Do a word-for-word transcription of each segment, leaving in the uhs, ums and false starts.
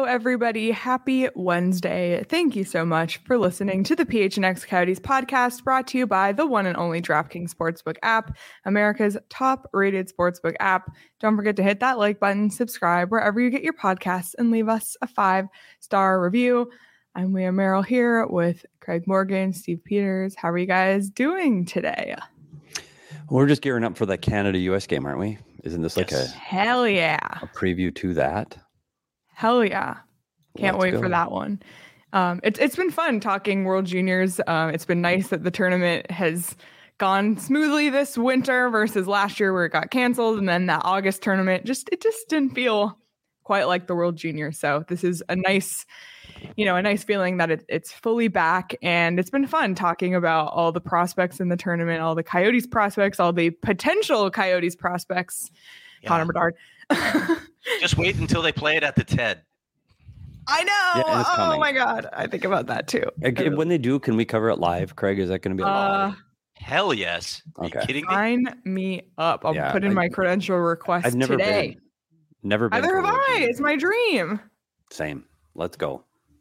everybody. Happy Wednesday. Thank you so much for listening to the P H N X Coyotes podcast, brought to you by the one and only DraftKings Sportsbook app, America's top-rated sportsbook app. Don't forget to hit that like button, subscribe wherever you get your podcasts, and leave us a five-star review. I'm Leah Merrill here with Craig Morgan, Steve Peters. How are you guys doing today? We're just gearing up for the Canada-U S game, aren't we? Isn't this like yes. a hell yeah a preview to that? Hell yeah. Can't Let's wait go. for that one. Um, it's it's been fun talking World Juniors. Uh, it's been nice that the tournament has gone smoothly this winter versus last year where it got canceled, and then that August tournament just it just didn't feel quite like the World Juniors. So this is a nice, you know, a nice feeling that it, it's fully back, and it's been fun talking about all the prospects in the tournament, all the Coyotes prospects, all the potential Coyotes prospects. Yeah. Connor Bedard. Just wait until they play it at the T E D. I know. Yeah, oh coming. my God. I think about that too. Okay, when they do, can we cover it live, Craig? Is that going to be a uh, Hell yes. Are okay. you kidding me? Sign me up. I'll yeah, put in I, my credential request I've never today. Been, never been. Either have I. It's my dream. Same. Let's go.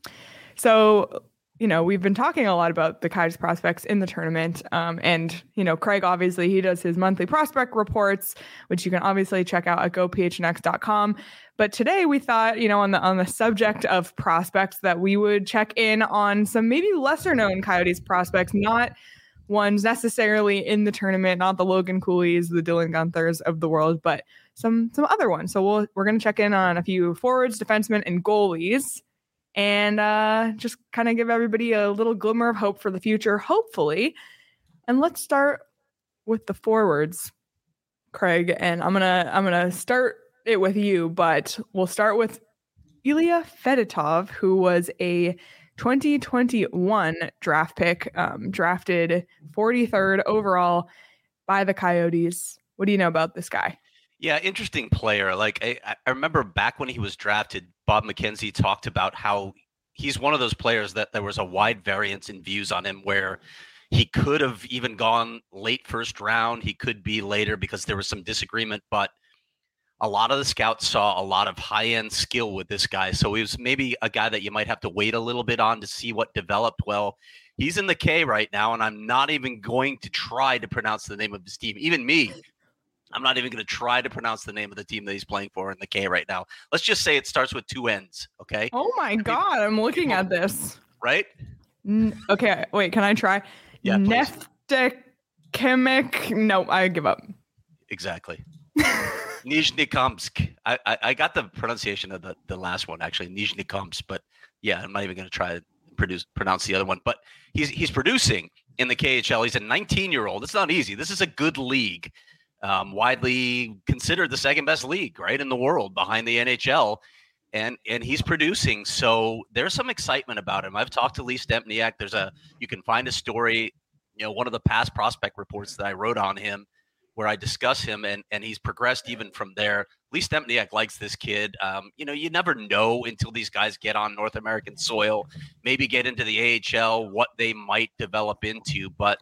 So, you know, we've been talking a lot about the Coyotes prospects in the tournament. Um, and, you know, Craig, obviously, he does his monthly prospect reports, which you can obviously check out at go p h n x dot com. But today we thought, you know, on the on the subject of prospects, that we would check in on some maybe lesser known Coyotes prospects, not ones necessarily in the tournament, not the Logan Cooley's, the Dylan Guenthers of the world, but some some other ones. So we'll, we're going to check in on a few forwards, defensemen, and goalies. And uh, just kind of give everybody a little glimmer of hope for the future, hopefully. And let's start with the forwards, Craig. And I'm gonna I'm gonna start it with you, but we'll start with Ilya Fedotov, who was a twenty twenty-one draft pick, um, drafted forty-third overall by the Coyotes. What do you know about this guy? Yeah, interesting player. Like I, I remember back when he was drafted, Bob McKenzie talked about how he's one of those players that there was a wide variance in views on him, where he could have even gone late first round. He could be later because there was some disagreement, but a lot of the scouts saw a lot of high-end skill with this guy. So he was maybe a guy that you might have to wait a little bit on to see what developed. Well, he's in the K right now, and I'm not even going to try to pronounce the name of his team. Even me, I'm not even going to try to pronounce the name of the team that he's playing for in the K right now. Let's just say it starts with two N's, okay? Oh, my God. I'm looking at this. Right? N- okay, wait, can I try? Yeah, please. Neftekimik. No, I give up. Exactly. Nizhnekomsk. I, I I got the pronunciation of the, the last one, actually, Nizhnekomsk, but yeah, I'm not even going to try to produce pronounce the other one. But he's he's producing in the K H L. He's a nineteen-year-old. It's not easy. This is a good league, um, widely considered the second best league, right, in the world behind the N H L, and and he's producing. So there's some excitement about him. I've talked to Lee Stempniak. There's a you can find a story, you know, one of the past prospect reports that I wrote on him, where I discuss him, and, and he's progressed even from there. Lee Stempniak likes this kid. Um, you know, you never know until these guys get on North American soil, maybe get into the A H L, what they might develop into. But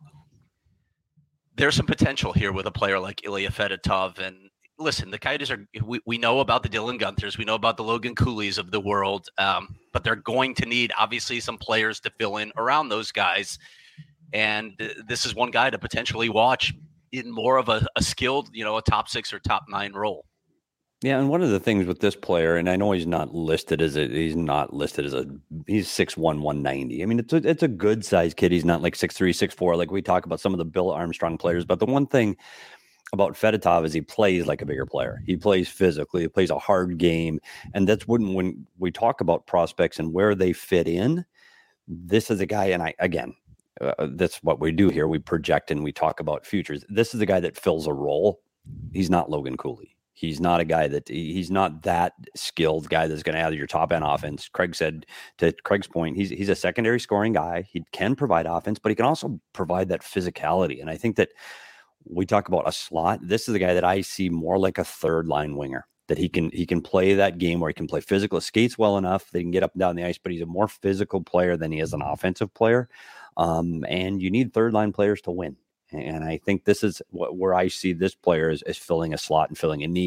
there's some potential here with a player like Ilya Fedotov. And listen, the Coyotes are we, – we know about the Dylan Guenthers. We know about the Logan Cooleys of the world. Um, but they're going to need, obviously, some players to fill in around those guys. And uh, this is one guy to potentially watch in more of a, a skilled, you know, a top six or top nine role. Yeah, and one of the things with this player, and I know he's not listed as a he's not listed as a he's six one, one ninety. I mean, it's a, it's a good sized kid. He's not like six three, six four like we talk about some of the Bill Armstrong players. But the one thing about Fedotov is he plays like a bigger player. He plays physically. He plays a hard game, and that's when when we talk about prospects and where they fit in. This is a guy, and I again. Uh, that's what we do here. We project and we talk about futures. This is a guy that fills a role. He's not Logan Cooley. He's not a guy that he's not that skilled guy that's going to add your top end offense. Craig said, to Craig's point, he's he's a secondary scoring guy. He can provide offense, but he can also provide that physicality. And I think that we talk about a slot. This is a guy that I see more like a third line winger. That he can he can play that game where he can play physical, skates well enough that he can get up and down the ice, but he's a more physical player than he is an offensive player. Um, and you need third line players to win. And I think this is what, where I see this player is, is filling a slot and filling a need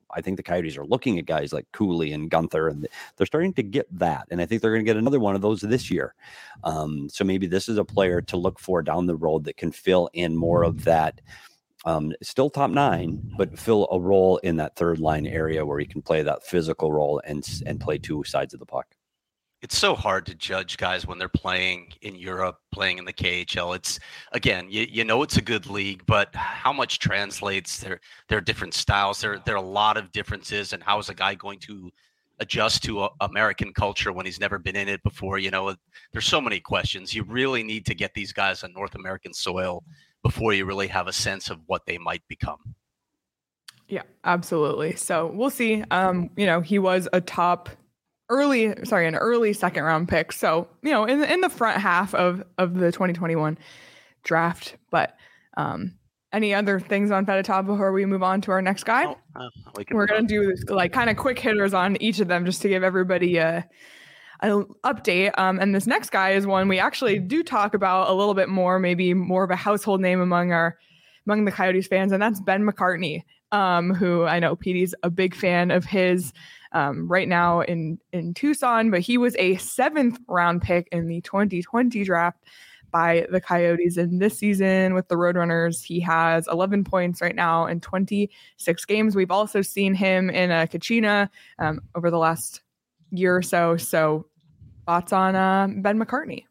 I think the Coyotes are looking at guys like Cooley and Gunther, and they're starting to get that. And I think they're going to get another one of those this year. Um, so maybe this is a player to look for down the road that can fill in more of that. Um, still top nine, but fill a role in that third line area where he can play that physical role and and play two sides of the puck. It's so hard to judge guys when they're playing in Europe, playing in the K H L. It's, again, you, you know it's a good league, but how much translates? There, there are different styles. There, there are a lot of differences. And how is a guy going to adjust to a, American culture when he's never been in it before? You know, there's so many questions. You really need to get these guys on North American soil before you really have a sense of what they might become. Yeah, absolutely. So we'll see. Um, you know, he was a top early, sorry, an early second round pick. So, you know, in the, in the front half of, of the twenty twenty-one draft. But um, any other things on Fedotov before we move on to our next guy? Oh, uh, we We're going to do this, like kind of quick hitters on each of them just to give everybody a, an update. Um, and this next guy is one we actually do talk about a little bit more, maybe more of a household name among our among the Coyotes fans, and that's Ben McCartney, um, who I know P D's a big fan of his um, right now in, in Tucson, but he was a seventh round pick in the twenty twenty draft by the Coyotes. And this season with the Roadrunners, he has eleven points right now in twenty-six games. We've also seen him in a Kachina um, over the last year or so. So thoughts on uh, Ben McCartney?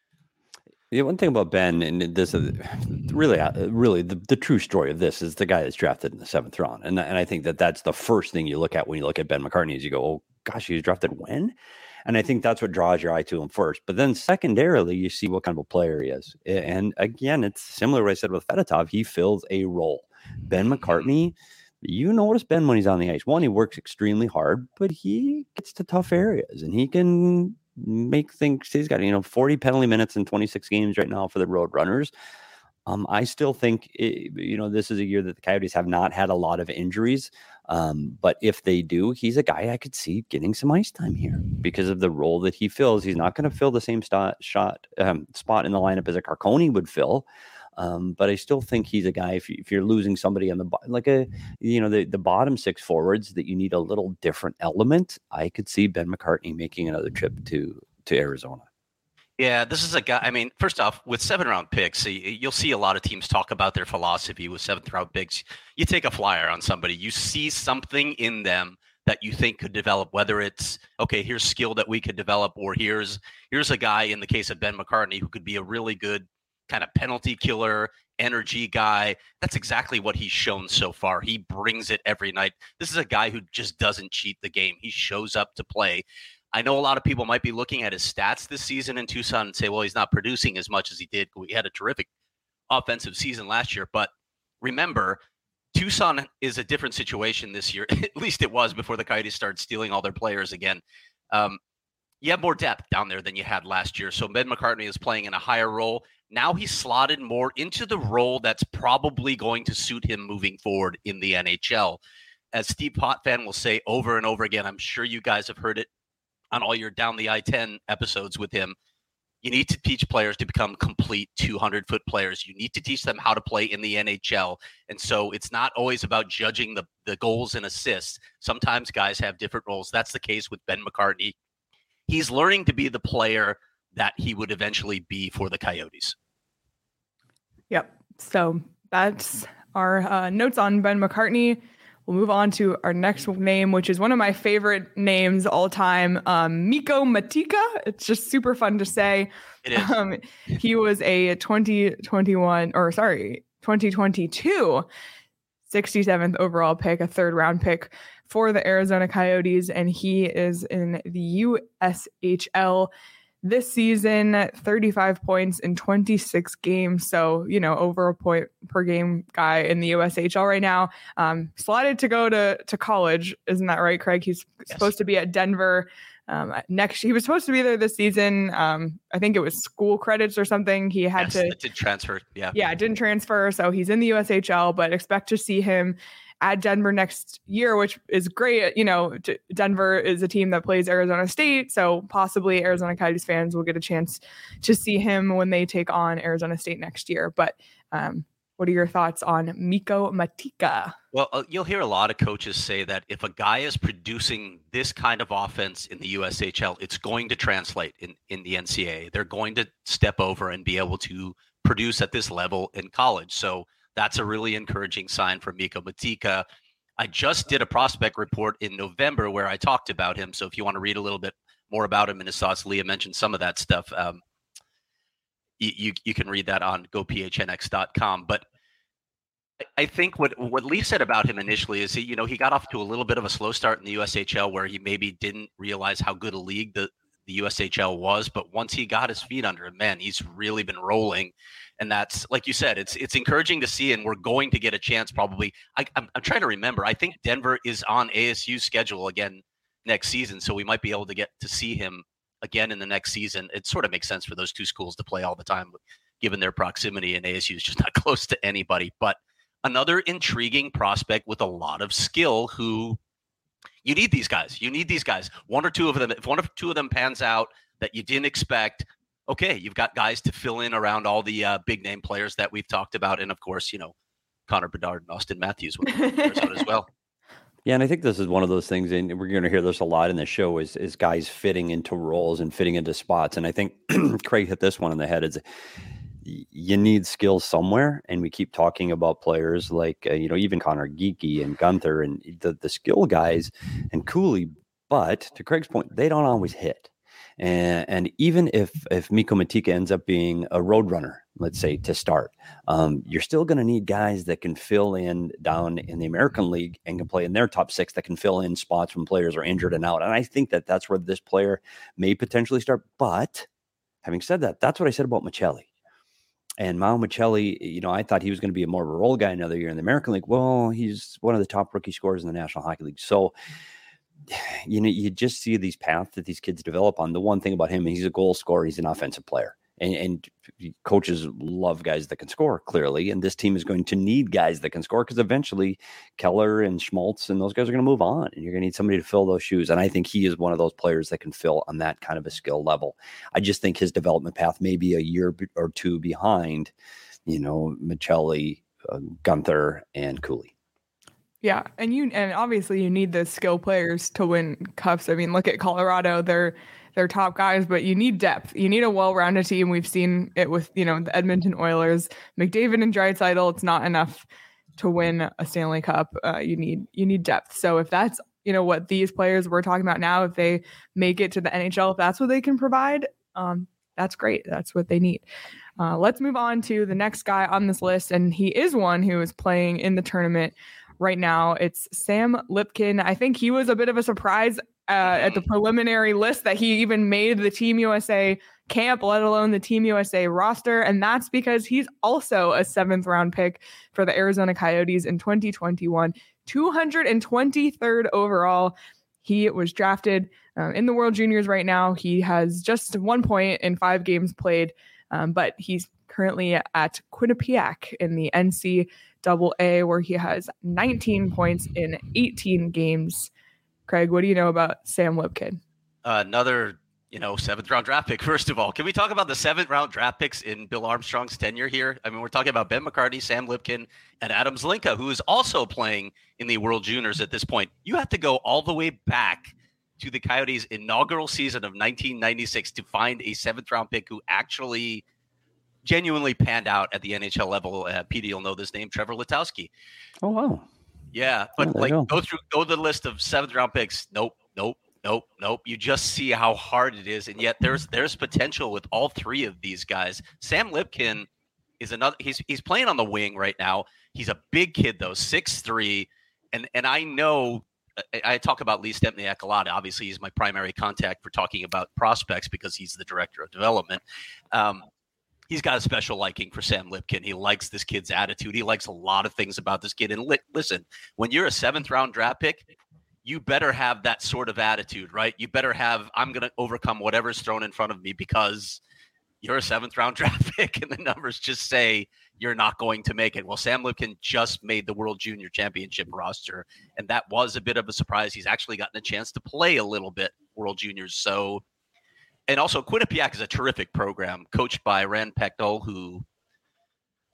Yeah, one thing about Ben, and this is really, really the, the true story of this is the guy that's drafted in the seventh round. And, and I think that that's the first thing you look at when you look at Ben McCartney is you go, oh gosh, he was drafted when? And I think that's what draws your eye to him first. But then secondarily, you see what kind of a player he is. And again, it's similar to what I said with Fedotov. He fills a role. Ben McCartney, you notice Ben when he's on the ice. One, he works extremely hard, but he gets to tough areas and he can make things. He's got, you know, forty penalty minutes in twenty-six games right now for the Roadrunners. Um, I still think, it, you know, this is a year that the Coyotes have not had a lot of injuries. Um, but if they do, he's a guy I could see getting some ice time here because of the role that he fills. He's not going to fill the same st- shot um, spot in the lineup as a Carcone would fill. Um, but I still think he's a guy, if, you, if you're losing somebody on the, like a, you know, the, the bottom six forwards that you need a little different element, I could see Ben McCartney making another trip to, to Arizona. Yeah, this is a guy. I mean, first off, with seven round picks, you'll see a lot of teams talk about their philosophy with seventh round picks. You take a flyer on somebody, you see something in them that you think could develop, whether it's, okay, here's skill that we could develop, or here's, here's a guy in the case of Ben McCartney who could be a really good kind of penalty killer, energy guy. That's exactly what he's shown so far. He brings it every night. This is a guy who just doesn't cheat the game. He shows up to play. I know a lot of people might be looking at his stats this season in Tucson and say, well, he's not producing as much as he did. We had a terrific offensive season last year. But remember, Tucson is a different situation this year. At least it was before the Coyotes started stealing all their players again. Um, you have more depth down there than you had last year. So Ben McCartney is playing in a higher role. Now he's slotted more into the role that's probably going to suit him moving forward in the N H L. As Steve Potvin will say over and over again, I'm sure you guys have heard it on all your Down the I ten episodes with him, you need to teach players to become complete two hundred foot players. You need to teach them how to play in the N H L. And so it's not always about judging the, the goals and assists. Sometimes guys have different roles. That's the case with Ben McCartney. He's learning to be the player that he would eventually be for the Coyotes. Yep. So that's our uh, notes on Ben McCartney. We'll move on to our next name, which is one of my favorite names all time, um, Mikko Matika. It's just super fun to say. It is. Um, he was a twenty twenty-one, or sorry, twenty twenty-two sixty-seventh overall pick, a third round pick for the Arizona Coyotes, and he is in the U S H L this season, thirty-five points in twenty-six games. So, you know, over a point per game guy in the U S H L right now. Um, slotted to go to, to college. Isn't that right, Craig? He's yes. supposed to be at Denver um, next. He was supposed to be there this season. Um, I think it was school credits or something. He had yes, to it did transfer. Yeah. Yeah, didn't transfer. So he's in the U S H L, but expect to see him at Denver next year, which is great. You know, Denver is a team that plays Arizona State, so possibly Arizona Coyotes fans will get a chance to see him when they take on Arizona State next year. But um, What are your thoughts on Miko Matika? Well, uh, you'll hear a lot of coaches say that if a guy is producing this kind of offense in the U S H L, it's going to translate in, in the N C A A. They're going to step over and be able to produce at this level in college. So that's a really encouraging sign for Miko Matika. I just did a prospect report in November where I talked about him. So if you want to read a little bit more about him and his thoughts, Leah mentioned some of that stuff. Um, you, you you can read that on go p h n x dot com. But I think what, what Lee said about him initially is he, you know, he got off to a little bit of a slow start in the U S H L where he maybe didn't realize how good a league the, the U S H L was. But once he got his feet under him, man, he's really been rolling. And that's, like you said, it's it's encouraging to see, and we're going to get a chance probably. I, I'm, I'm trying to remember. I think Denver is on A S U's schedule again next season, so we might be able to get to see him again in the next season. It sort of makes sense for those two schools to play all the time, given their proximity, and A S U is just not close to anybody. But another intriguing prospect with a lot of skill who you need these guys. You need these guys. One or two of them, if one or two of them pans out that you didn't expect, okay, you've got guys to fill in around all the uh, big name players that we've talked about. And of course, you know, Connor Bedard and Austin Matthews when out as well. Yeah, and I think this is one of those things, and we're going to hear this a lot in the show, is is guys fitting into roles and fitting into spots. And I think Craig hit this one on the head. Is you need skills somewhere, and we keep talking about players like uh, you know, even Connor Geeky and Gunther and the the skill guys and Cooley. But to Craig's point, they don't always hit. And, and even if if Miko Matika ends up being a road runner, let's say, to start, um, you're still going to need guys that can fill in down in the American League and can play in their top six, that can fill in spots when players are injured and out. And I think that that's where this player may potentially start. But having said that, that's what I said about Michelli. And Mao Michelli, you know, I thought he was going to be a more of a role guy another year in the American League. Well, he's one of the top rookie scorers in the National Hockey League. So, you know, you just see these paths that these kids develop on. The one thing about him, he's a goal scorer. He's an offensive player. And, and coaches love guys that can score, clearly. And this team is going to need guys that can score because eventually Keller and Schmaltz and those guys are going to move on. And you're going to need somebody to fill those shoes. And I think he is one of those players that can fill on that kind of a skill level. I just think his development path may be a year or two behind, you know, Michelli, uh, Gunther, and Cooley. Yeah, and you and obviously you need the skill players to win cups. I mean, look at Colorado; they're they're top guys, but you need depth. You need a well-rounded team. We've seen it with, you know, the Edmonton Oilers, McDavid and Draisaitl. It's not enough to win a Stanley Cup. Uh, you need you need depth. So if that's, you know, what these players we're talking about now, if they make it to the N H L, if that's what they can provide, um, that's great. That's what they need. Uh, let's move on to the next guy on this list, and he is one who is playing in the tournament right now. It's Sam Lipkin. I think he was a bit of a surprise uh, at the preliminary list that he even made the Team U S A camp, let alone the Team U S A roster. And that's because he's also a seventh round pick for the Arizona Coyotes in twenty twenty-one, two hundred twenty-third overall. He was drafted uh, in the World Juniors right now. He has just one point in five games played, um, but he's currently at Quinnipiac in the N C double A, where he has nineteen points in eighteen games. Craig, what do you know about Sam Lipkin? Uh, another, you know, seventh round draft pick. First of all, can we talk about the seventh round draft picks in Bill Armstrong's tenure here? I mean, we're talking about Ben McCartney, Sam Lipkin, and Adam Zlinka, who is also playing in the World Juniors at this point. You have to go all the way back to the Coyotes' inaugural season of nineteen ninety-six to find a seventh round pick who actually genuinely panned out at the N H L level. Uh, P D will know this name, Trevor Letowski. Oh, wow. Yeah, but oh, like go. go through, go to the list of seventh round picks. Nope, nope, nope, nope. You just see how hard it is, and yet there's there's potential with all three of these guys. Sam Lipkin is another. He's he's playing on the wing right now. He's a big kid though, six three, and and I know. I, I talk about Lee Stempniak a lot. Obviously, he's my primary contact for talking about prospects because he's the director of development. Um, He's got a special liking for Sam Lipkin. He likes this kid's attitude. He likes a lot of things about this kid. And li- listen, when you're a seventh round draft pick, you better have that sort of attitude, right? You better have, I'm going to overcome whatever's thrown in front of me because you're a seventh round draft pick and the numbers just say you're not going to make it. Well, Sam Lipkin just made the World Junior Championship roster, and that was a bit of a surprise. He's actually gotten a chance to play a little bit World Juniors. So, and also Quinnipiac is a terrific program coached by Rand Pecknold, who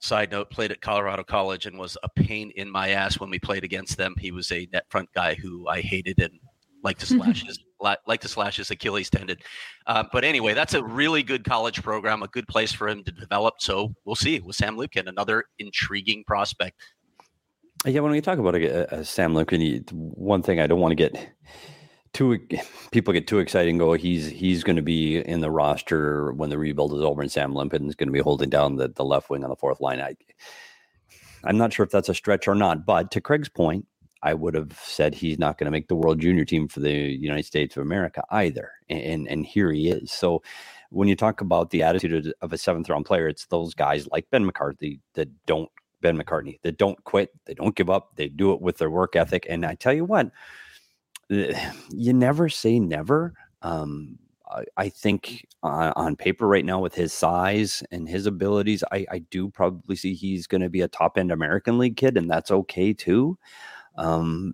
side note, played at Colorado College and was a pain in my ass when we played against them. He was a net front guy who I hated and liked to slash his like to slash his Achilles tendon. Uh, but anyway, that's a really good college program, a good place for him to develop. So we'll see with Sam Luebken, another intriguing prospect. Yeah, when we talk about a, a Sam Luebken, one thing I don't want to get too people get too excited and go, he's he's going to be in the roster when the rebuild is over, and Sam Luebken is going to be holding down the, the left wing on the fourth line. I, I'm not sure if that's a stretch or not, but to Craig's point, I would have said he's not going to make the World Junior team for the United States of America either, and and here he is. So when you talk about the attitude of a seventh round player, it's those guys like Ben McCarthy that don't Ben McCartney that don't quit, they don't give up, they do it with their work ethic. And I tell you what, you never say never. Um, I, I think on, on paper right now with his size and his abilities, I, I do probably see he's going to be a top end American League kid, and that's okay too. Um,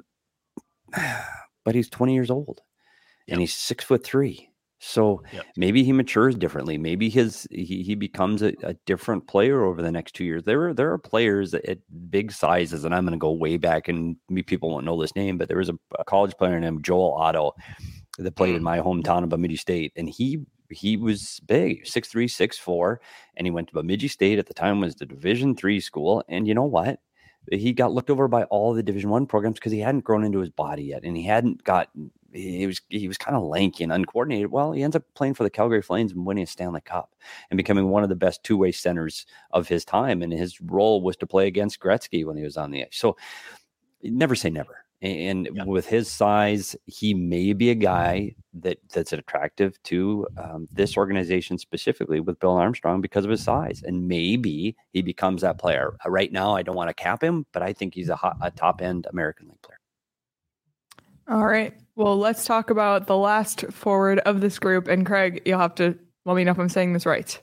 but he's twenty years old, yep. and he's six foot three. So yep. maybe he matures differently. Maybe his he, he becomes a, a different player over the next two years. There are there are players at big sizes, and I'm going to go way back, and people won't know this name, but there was a, a college player named Joel Otto that played in my hometown of Bemidji State, and he he was big, six three, six four, and he went to Bemidji State at the time, was the Division three school, and you know what? He got looked over by all the Division One programs because he hadn't grown into his body yet, and he hadn't got. He was he was kind of lanky and uncoordinated. Well, he ends up playing for the Calgary Flames and winning a Stanley Cup and becoming one of the best two-way centers of his time. And his role was to play against Gretzky when he was on the ice. So never say never. And yeah. with his size, he may be a guy that that's attractive to um, this organization specifically with Bill Armstrong because of his size. And maybe he becomes that player. Right now, I don't want to cap him, but I think he's a, hot, a top-end American League player. All right. Well, let's talk about the last forward of this group. And Craig, you'll have to let me know if I'm saying this right.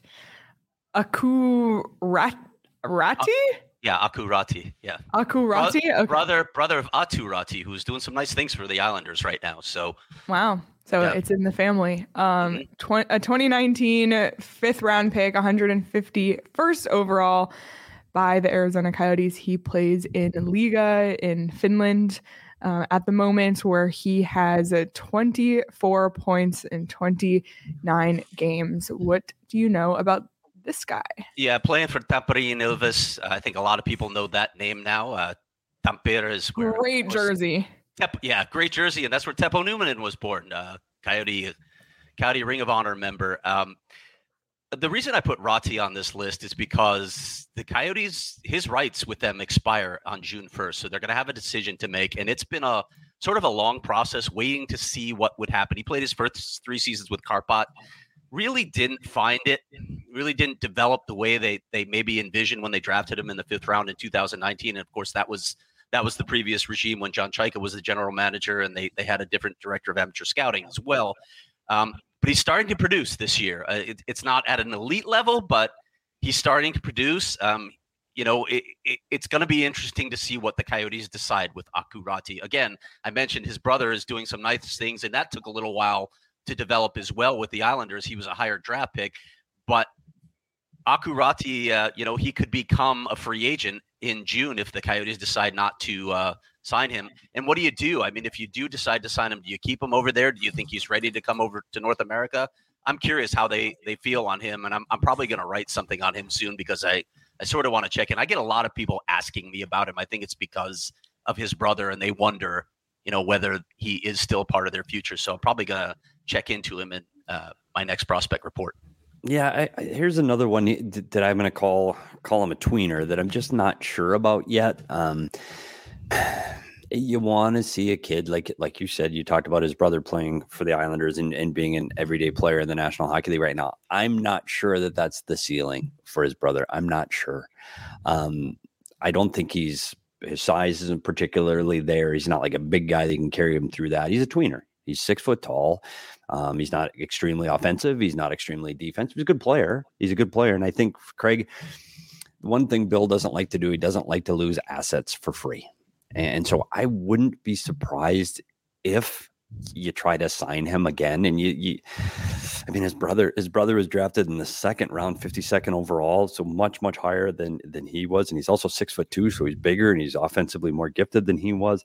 Aku Rat Ratti? Uh, yeah, Aku Ratti. Yeah. Aku Ratti? Bro- okay. Brother brother of Aatu Ratti, who's doing some nice things for the Islanders right now. So wow. So yeah. It's in the family. Um, mm-hmm. tw- a twenty nineteen fifth round pick, one hundred fifty-first overall by the Arizona Coyotes. He plays in Liga in Finland. Uh, at the moment, where he has uh, twenty-four points in twenty-nine games. What do you know about this guy? Yeah, playing for Tampere Ilves. I think a lot of people know that name now. Uh, Tampere is where great was, jersey. Tep, yeah, great jersey, and that's where Teppo Numminen was born. Uh, Coyote, Coyote Ring of Honor member. Um, The reason I put Ratti on this list is because the Coyotes, his rights with them expire on June first. So they're going to have a decision to make. And it's been a sort of a long process waiting to see what would happen. He played his first three seasons with Kärpät, really didn't find it, really didn't develop the way they they maybe envisioned when they drafted him in the fifth round in two thousand nineteen. And of course, that was that was the previous regime when John Chaika was the general manager, and they they had a different director of amateur scouting as well. Um, But he's starting to produce this year. Uh, it, it's not at an elite level, but he's starting to produce. Um, you know, it, it, it's going to be interesting to see what the Coyotes decide with Aku Ratti. Again, I mentioned his brother is doing some nice things, and that took a little while to develop as well with the Islanders. He was a higher draft pick, but Aku Ratti, uh, you know, he could become a free agent in June if the Coyotes decide not to uh, sign him. And what do you do? I mean, if you do decide to sign him, do you keep him over there? Do you think he's ready to come over to North America? I'm curious how they, they feel on him, and I'm I'm probably going to write something on him soon because I, I sort of want to check in. I get a lot of people asking me about him. I think it's because of his brother, and they wonder, you know, whether he is still part of their future. So I'm probably going to check into him in uh, my next prospect report. Yeah, I, I, here's another one that I'm going to call call him a tweener that I'm just not sure about yet. Um, you want to see a kid like like you said, you talked about his brother playing for the Islanders and, and being an everyday player in the National Hockey League right now. I'm not sure that that's the ceiling for his brother. I'm not sure. Um, I don't think he's his size isn't particularly there. He's not like a big guy that can carry him through that. He's a tweener. He's six foot tall. Um, he's not extremely offensive. He's not extremely defensive. He's a good player. He's a good player. And I think, Craig, one thing Bill doesn't like to do, he doesn't like to lose assets for free. And so I wouldn't be surprised if you try to sign him again. And you, you, I mean, his brother, his brother was drafted in the second round, fifty-second overall. So much, much higher than, than he was. And he's also six foot two. So he's bigger and he's offensively more gifted than he was.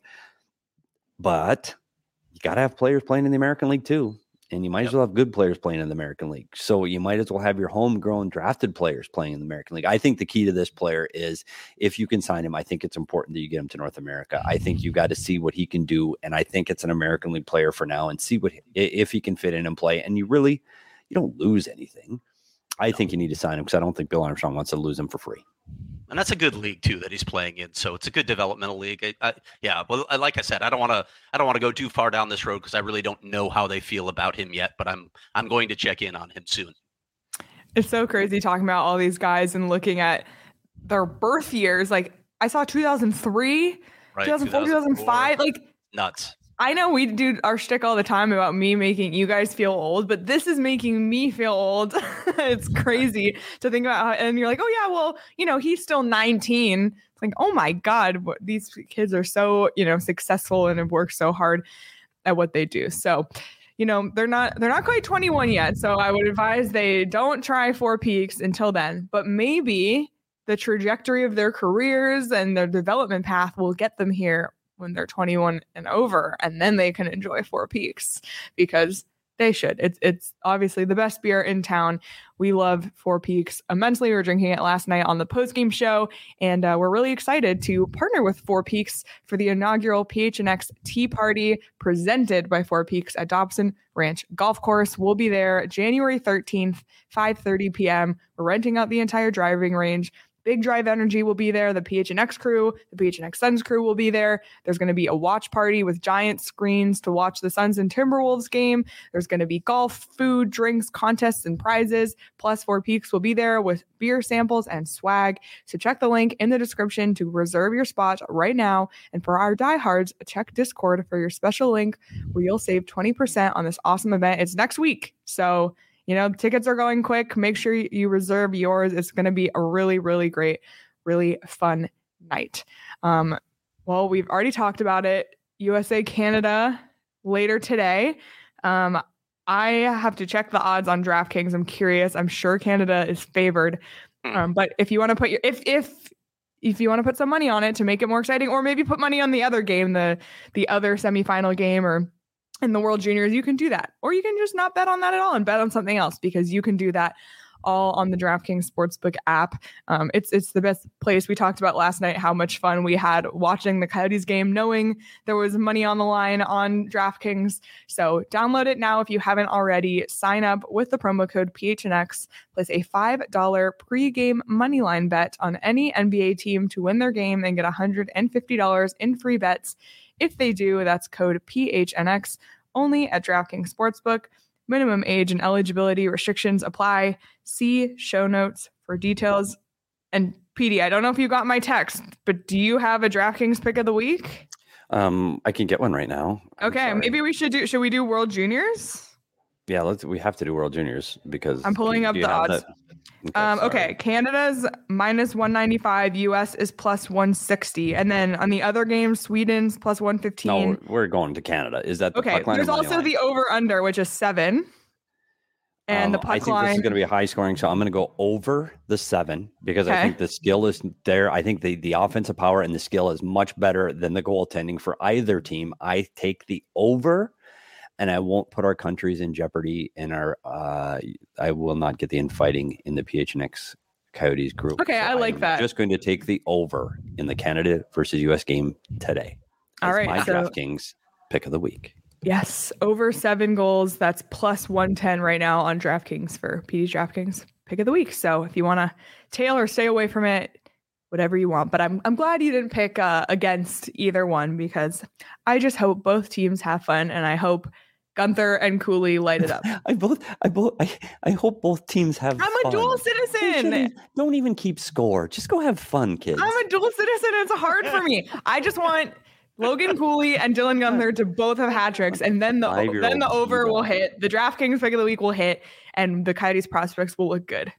But you got to have players playing in the American League too. And you might yep. as well have good players playing in the American League. So you might as well have your homegrown drafted players playing in the American League. I think the key to this player is if you can sign him, I think it's important that you get him to North America. I think you got to see what he can do. And I think it's an American League player for now and see what if he can fit in and play. And you really, you don't lose anything. I no. think you need to sign him because I don't think Bill Armstrong wants to lose him for free. And that's a good league too that he's playing in. So it's a good developmental league. I, I, yeah, well, like I said, I don't want to. I don't want to go too far down this road because I really don't know how they feel about him yet. But I'm I'm going to check in on him soon. It's so crazy talking about all these guys and looking at their birth years. Like I saw two thousand three, right, two thousand four, two thousand five. Like nuts. I know we do our shtick all the time about me making you guys feel old, but this is making me feel old. It's crazy to think about. How, and you're like, oh yeah, well, you know, he's still nineteen. It's like, oh my God, what, these kids are so, you know, successful and have worked so hard at what they do. So, you know, they're not, they're not quite twenty-one yet. So I would advise they don't try Four Peaks until then, but maybe the trajectory of their careers and their development path will get them here when they're twenty-one and over, and then they can enjoy Four Peaks because they should. It's it's obviously the best beer in town. We love Four Peaks immensely. We were drinking it last night on the postgame show, and uh, we're really excited to partner with Four Peaks for the inaugural P H N X Tea Party presented by Four Peaks at Dobson Ranch Golf Course. We'll be there January thirteenth, five thirty p.m. We're renting out the entire driving range. Big Drive Energy will be there. The P H N X crew, the P H N X Suns crew will be there. There's going to be a watch party with giant screens to watch the Suns and Timberwolves game. There's going to be golf, food, drinks, contests, and prizes. Plus, Four Peaks will be there with beer samples and swag. So check the link in the description to reserve your spot right now. And for our diehards, check Discord for your special link where you'll save twenty percent on this awesome event. It's next week. So you know, tickets are going quick. Make sure you reserve yours. It's going to be a really, really great, really fun night. Um, well, we've already talked about it. U S A, Canada later today. Um, I have to check the odds on DraftKings. I'm curious. I'm sure Canada is favored. Um, but if you want to put your, if, if, if you want to put some money on it to make it more exciting, or maybe put money on the other game, the, the other semifinal game, or in the World Juniors, you can do that. Or you can just not bet on that at all and bet on something else, because you can do that all on the DraftKings Sportsbook app. Um, it's it's the best place. We talked about last night how much fun we had watching the Coyotes game, knowing there was money on the line on DraftKings. So download it now if you haven't already. Sign up with the promo code P H N X. Place a five dollars pregame moneyline bet on any N B A team to win their game and get one hundred fifty dollars in free bets. If they do, that's code P H N X only at DraftKings Sportsbook. Minimum age and eligibility restrictions apply. See show notes for details. And P D, I don't know if you got my text, but do you have a DraftKings pick of the week? Um, I can get one right now. I'm okay, sorry. maybe we should do. Should we do World Juniors? Yeah, let's. We have to do World Juniors because I'm pulling up the odds. That? Okay, um, okay, Canada's minus one ninety-five, U S is plus one sixty, and then on the other games, Sweden's plus one fifteen. No, we're going to Canada. Is that the okay? Puck line? There's also line? The over under, which is seven, and um, the puck I think line. This is going to be a high scoring, so I'm going to go over the seven because okay. I think the skill is there. I think the the offensive power and the skill is much better than the goaltending for either team. I take the over. And I won't put our countries in jeopardy. And our, uh, I will not get the infighting in the P H N X Coyotes group. Okay, so I like I'm that. Just going to take the over in the Canada versus U S game today. That's all right, my so, DraftKings pick of the week. Yes, over seven goals. That's plus one ten right now on DraftKings for P D's DraftKings pick of the week. So if you want to tail or stay away from it, whatever you want. But I'm I'm glad you didn't pick uh, against either one, because I just hope both teams have fun, and I hope Gunther and Cooley light it up. I both I both I, I hope both teams have I'm fun. a dual citizen. Don't even keep score. Just go have fun, kids. I'm a dual citizen. It's hard for me. I just want Logan Cooley and Dylan Gunther to both have hat tricks, and then the then the over will hit. The DraftKings pick of the week will hit, and the Coyotes prospects will look good.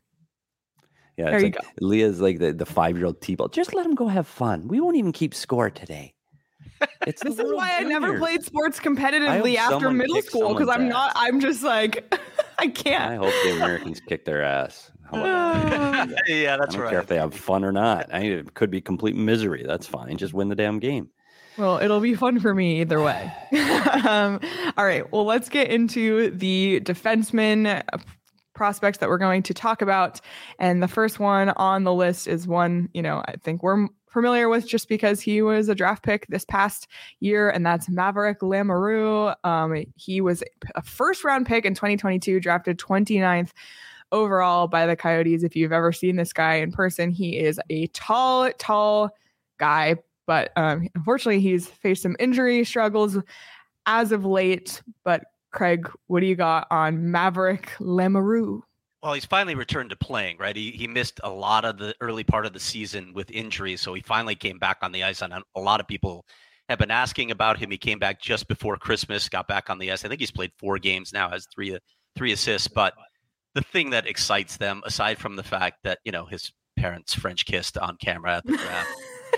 Yeah, there it's you like go. Leah's like the, the five-year-old T-ball. Just let them go have fun. We won't even keep score today. It's This the is World why I never Juniors. played sports competitively after someone middle kicks school because I'm someone's not. ass. I'm just like I can't. I hope the Americans kick their ass. How about that? Yeah, that's I don't right. care if they have fun or not. I mean, it could be complete misery. That's fine. Just win the damn game. Well, it'll be fun for me either way. um, all right. Well, let's get into the defenseman prospects that we're going to talk about. And the first one on the list is one, you know, I think we're familiar with just because he was a draft pick this past year, and that's Maverick Lamoureux. Um, he was a first round pick in twenty twenty-two, drafted twenty-ninth overall by the Coyotes. If you've ever seen this guy in person, he is a tall, tall guy. But um, unfortunately, he's faced some injury struggles as of late. But Craig, what do you got on Maverick Lamoureux? Well, he's finally returned to playing, right? He he missed a lot of the early part of the season with injuries, so he finally came back on the ice. And a lot of people have been asking about him. He came back just before Christmas, got back on the ice. I think he's played four games now, has three three assists. But the thing that excites them, aside from the fact that, you know, his parents French kissed on camera at the draft,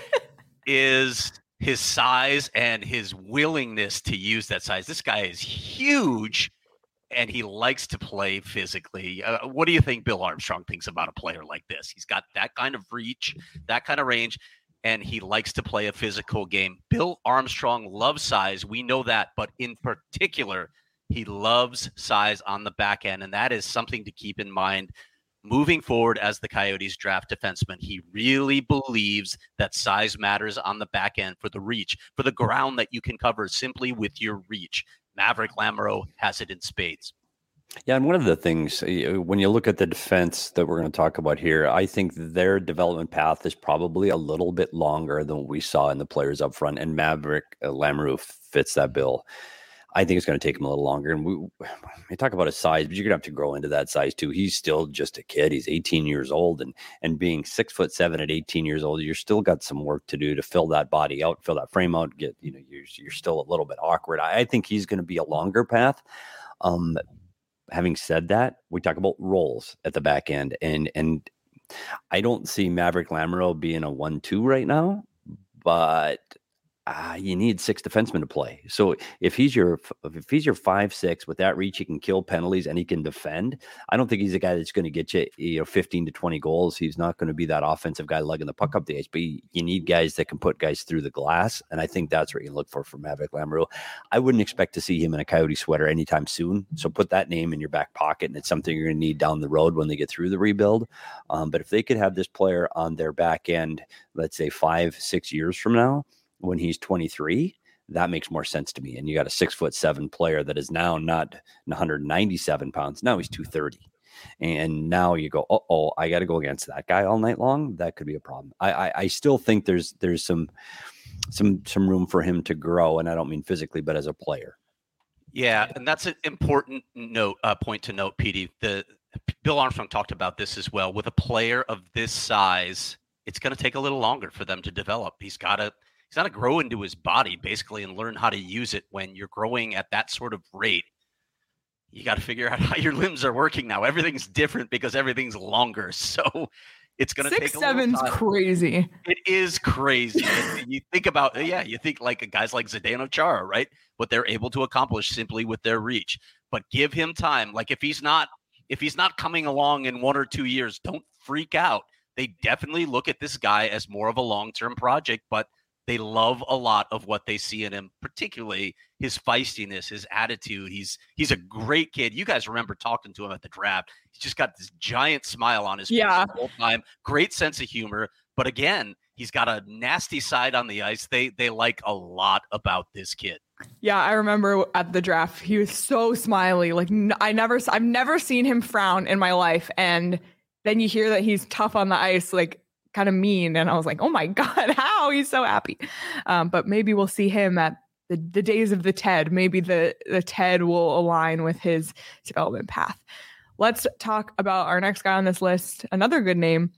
is his size and his willingness to use that size. This guy is huge, and he likes to play physically. Uh, what do you think Bill Armstrong thinks about a player like this? He's got that kind of reach, that kind of range, and he likes to play a physical game. Bill Armstrong loves size. We know that, but in particular, he loves size on the back end, and that is something to keep in mind moving forward as the Coyotes draft defenseman. He really believes that size matters on the back end for the reach, for the ground that you can cover simply with your reach. Maverick Lamoureux has it in spades. Yeah, and one of the things, when you look at the defense that we're going to talk about here, I think their development path is probably a little bit longer than what we saw in the players up front, and Maverick uh, Lamoureux fits that bill. I think it's going to take him a little longer. And we, we talk about his size, but you're going to have to grow into that size too. He's still just a kid. He's eighteen years old, and and being six foot seven at eighteen years old, you're still got some work to do to fill that body out, fill that frame out. Get you know, you're you're still a little bit awkward. I, I think he's going to be a longer path. Um, having said that, we talk about roles at the back end, and and I don't see Maverick Lamoureux being a one two right now, but Uh, you need six defensemen to play. So if he's your if he's your five six with that reach, he can kill penalties and he can defend. I don't think he's a guy that's going to get you you know fifteen to twenty goals. He's not going to be that offensive guy lugging the puck up the ice. But you, you need guys that can put guys through the glass, and I think that's what you look for for Maverick Lamoureux. I wouldn't expect to see him in a Coyote sweater anytime soon. So put that name in your back pocket, and it's something you're going to need down the road when they get through the rebuild. Um, but if they could have this player on their back end, let's say five six years from now, when he's twenty-three, that makes more sense to me. And you got a six foot seven player that is now not one hundred ninety-seven pounds. Now he's two thirty. And now you go, uh oh, I got to go against that guy all night long. That could be a problem. I, I, I still think there's, there's some, some, some room for him to grow. And I don't mean physically, but as a player. Yeah. And that's an important note, uh, point to note, Petey. The Bill Armstrong talked about this as well. With a player of this size, it's going to take a little longer for them to develop. He's got to, He's got to grow into his body, basically, and learn how to use it. When you're growing at that sort of rate, you got to figure out how your limbs are working now. Everything's different because everything's longer. So it's going to take a Six seven's time. Crazy. It is crazy. You think about, yeah, you think like guys like Zdeno Chara, right? What they're able to accomplish simply with their reach. But give him time. Like if he's not, if he's not coming along in one or two years, don't freak out. They definitely look at this guy as more of a long-term project, but they love a lot of what they see in him, particularly his feistiness, his attitude. He's he's a great kid. You guys remember talking to him at the draft. He's just got this giant smile on his face yeah. the whole time. Great sense of humor. But again, he's got a nasty side on the ice. They they like a lot about this kid. Yeah, I remember at the draft, he was so smiley. Like I never, I've never seen him frown in my life. And then you hear that he's tough on the ice, like kind of mean. And I was like, oh my God, how? He's so happy. Um, but maybe we'll see him at the, the days of the Ted. Maybe the, the Ted will align with his development path. Let's talk about our next guy on this list. Another good name,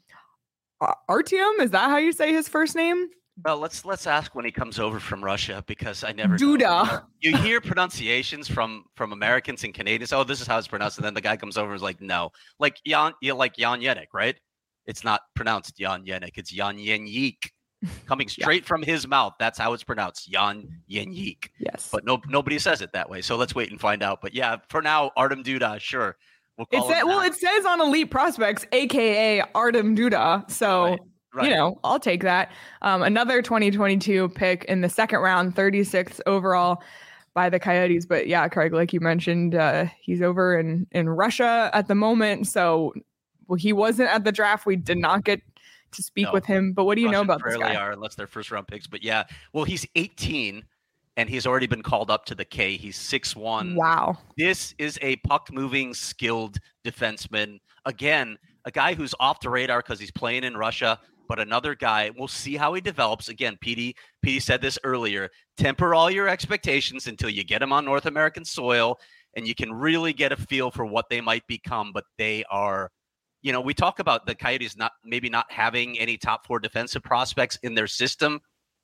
Artyom. Is that how you say his first name? Well, let's let's ask when he comes over from Russia, because I never Duda. know. You hear pronunciations from from Americans and Canadians. Oh, this is how it's pronounced, and then the guy comes over and is like, no, like Jan, you like Jan Jenik, right? It's not pronounced Jan Jenik. It's Jan Jenik. coming straight yeah. from his mouth. That's how it's pronounced, Jan Jeník. Yes. But no, nobody says it that way. So let's wait and find out. But yeah, for now, Artem Duda, sure. We'll call it well, it says on Elite Prospects, A K A Artem Duda. So, right. Right. you know, I'll take that. Um, another twenty twenty-two pick in the second round, thirty-sixth overall by the Coyotes. But yeah, Craig, like you mentioned, uh, he's over in, in Russia at the moment. So well, he wasn't at the draft. We did not get to speak no. with him. But what do you Russians know about this guy? Are unless they're first round picks. But yeah, well, he's eighteen and he's already been called up to the K. He's six one. Wow. This is a puck moving, skilled defenseman. Again, a guy who's off the radar because he's playing in Russia. But another guy, we'll see how he develops. Again, Petey, Petey said this earlier. Temper all your expectations until you get him on North American soil, and you can really get a feel for what they might become. But they are, you know, we talk about the Coyotes not maybe not having any top four defensive prospects in their system.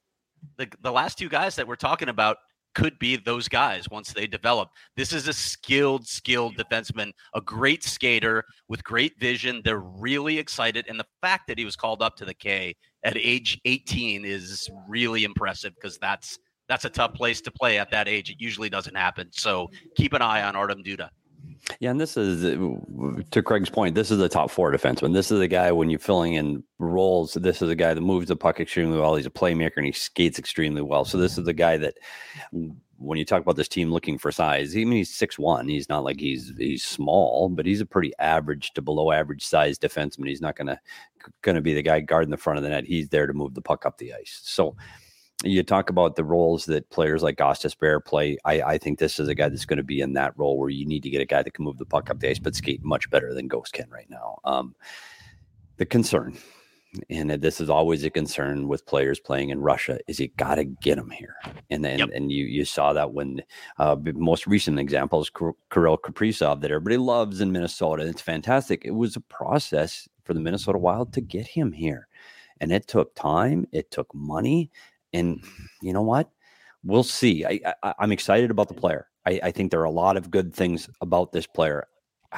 The the last two guys that we're talking about could be those guys once they develop. This is a skilled, skilled defenseman, a great skater with great vision. They're really excited. And the fact that he was called up to the K at age eighteen is really impressive because that's that's a tough place to play at that age. It usually doesn't happen. So keep an eye on Artem Duda. Yeah, and this is, to Craig's point, this is a top four defenseman. This is a guy, when you're filling in roles, this is a guy that moves the puck extremely well. He's a playmaker, and he skates extremely well. So this is the guy that, when you talk about this team looking for size, I mean, he's six one. He's not like he's he's small, but he's a pretty average to below average size defenseman. He's not going to going to be the guy guarding the front of the net. He's there to move the puck up the ice. So you talk about the roles that players like Gostisbehere play. I, I think this is a guy that's going to be in that role where you need to get a guy that can move the puck up the ice, but skate much better than Ghost can right now. Um, the concern, and this is always a concern with players playing in Russia, is you got to get them here. And then, yep. and you you saw that when uh, most recent example is Kirill Kaprizov that everybody loves in Minnesota. It's fantastic. It was a process for the Minnesota Wild to get him here, and it took time. It took money. And you know what? We'll see. I, I, I'm excited about the player. I, I think there are a lot of good things about this player.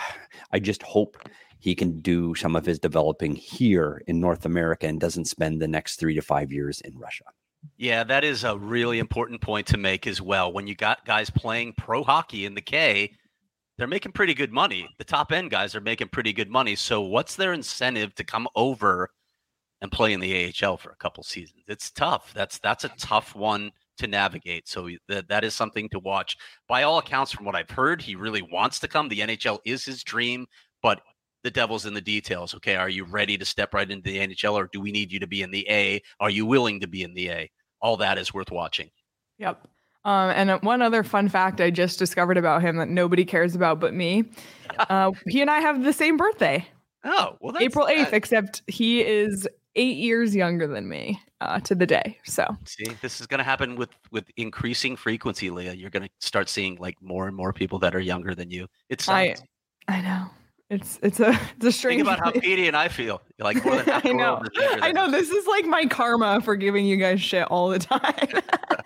I just hope he can do some of his developing here in North America and doesn't spend the next three to five years in Russia. Yeah, that is a really important point to make as well. When you got guys playing pro hockey in the K, they're making pretty good money. The top end guys are making pretty good money. So what's their incentive to come over and play in the A H L for a couple seasons? It's tough. That's that's a tough one to navigate. So that that is something to watch. By all accounts, from what I've heard, he really wants to come. The N H L is his dream, but the devil's in the details. Okay, are you ready to step right into the N H L, or do we need you to be in the A? Are you willing to be in the A? All that is worth watching. Yep. Um, and one other fun fact I just discovered about him that nobody cares about but me. Uh, he and I have the same birthday. Oh, well, that's April eighth, except he is eight years younger than me uh, to the day. So see, this is going to happen with, with increasing frequency, Leah. You're going to start seeing like more and more people that are younger than you. It's I, I know. It's it's a it's a strange. Think about how Petey and I feel. You're like more than half I know. I know. This is like my karma for giving you guys shit all the time.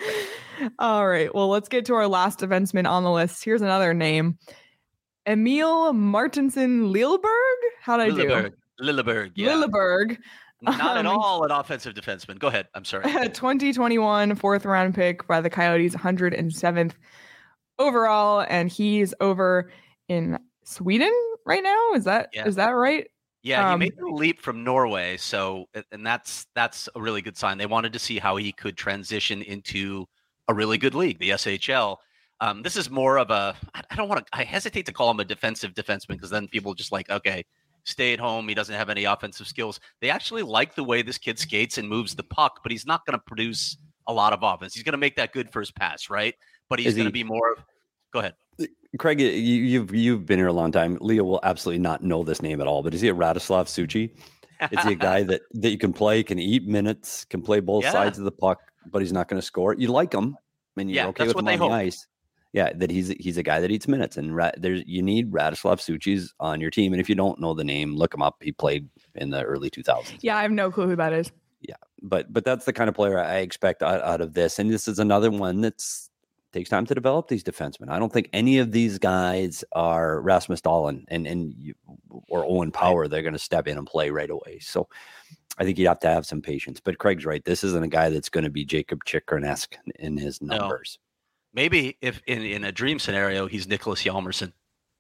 All right. Well, let's get to our last defenseman on the list. Here's another name. Emil Martinson Lilleberg. How'd I Lilleberg. do? Lilleberg. Yeah. Lilleberg. Not um, at all an offensive defenseman. Go ahead. I'm sorry. twenty twenty-one fourth round pick by the Coyotes, one hundred seventh overall, and he's over in Sweden right now. Is that yeah. is that right? Yeah, he um, made the leap from Norway, so and that's that's a really good sign. They wanted to see how he could transition into a really good league, the S H L. Um, this is more of a I don't want to I hesitate to call him a defensive defenseman because then people just like, okay, stay at home. He doesn't have any offensive skills. They actually like the way this kid skates and moves the puck, but he's not going to produce a lot of offense. He's going to make that good first pass, right? But he's going to be more of. Go ahead. Craig, you, you've you've been here a long time. Leo will absolutely not know this name at all, but is he a Radoslav Suchi? Is he a guy that, that you can play, can eat minutes, can play both yeah. sides of the puck, but he's not going to score? You like him, and you're yeah, okay with him on hope. the ice. Yeah, that he's he's a guy that eats minutes, and ra- there's you need Radoslav Suchis on your team. And if you don't know the name, look him up. He played in the early two thousands. Yeah, I have no clue who that is. Yeah, but but that's the kind of player I expect out, out of this. And this is another one that's takes time to develop these defensemen. I don't think any of these guys are Rasmus Dahlin and and you, or Owen Power. They're going to step in and play right away. So I think you have to have some patience. But Craig's right. This isn't a guy that's going to be Jacob Chikrin-esque in his numbers. No. Maybe if in, in a dream scenario, he's Nicholas Hjalmarsson.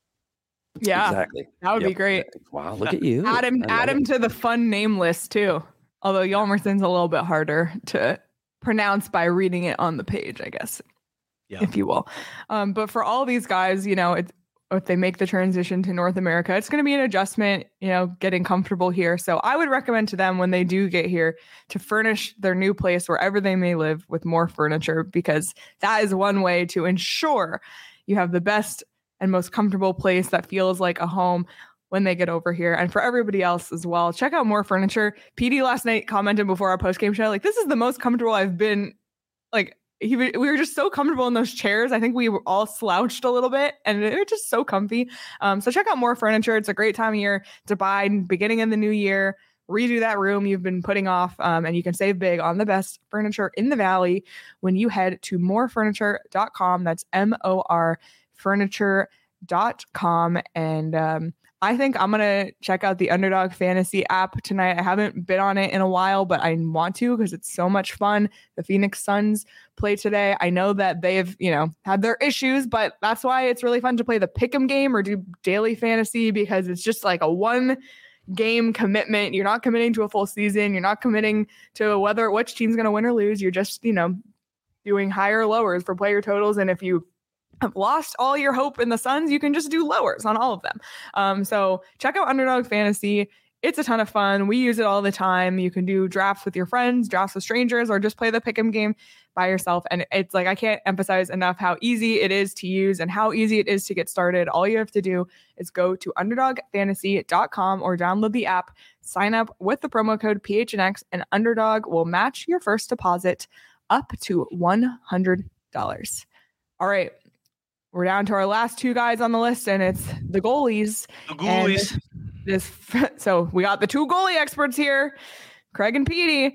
Yeah, exactly. That would yep. be great. Wow, look at you. Add him, add him it. to the fun name list too. Although Hjalmarsson's a little bit harder to pronounce by reading it on the page, I guess, yeah. if you will. Um, but for all these guys, you know, it's, if they make the transition to North America, it's going to be an adjustment, you know, getting comfortable here. So I would recommend to them when they do get here to furnish their new place wherever they may live with more furniture, because that is one way to ensure you have the best and most comfortable place that feels like a home when they get over here. And for everybody else as well, check out More Furniture. P D last night commented before our post-game show, like, this is the most comfortable I've been. Like, he, we were just so comfortable in those chairs. I think we were all slouched a little bit and they're just so comfy. Um, so check out More Furniture. It's a great time of year to buy, beginning in the new year. Redo that room you've been putting off, um, and you can save big on the best furniture in the Valley when you head to more furniture dot com. That's M O R furniture dot com. And um, I think I'm going to check out the Underdog Fantasy app tonight. I haven't been on it in a while, but I want to because it's so much fun. The Phoenix Suns play today. I know that they've, you know, had their issues, but that's why it's really fun to play the Pick'em game or do daily fantasy, because it's just like a one game commitment. You're not committing to a full season. You're not committing to whether which team's going to win or lose. You're just, you know, doing higher lowers for player totals. And if you have lost all your hope in the Suns, you can just do lowers on all of them. Um, so check out Underdog Fantasy. It's a ton of fun. We use it all the time. You can do drafts with your friends, drafts with strangers, or just play the Pick'em game by yourself. And it's like, I can't emphasize enough how easy it is to use and how easy it is to get started. All you have to do is go to underdog fantasy dot com or download the app, sign up with the promo code P H N X, and Underdog will match your first deposit up to one hundred dollars. All right. We're down to our last two guys on the list, and it's the goalies. The goalies. This, so we got the two goalie experts here, Craig and Petey.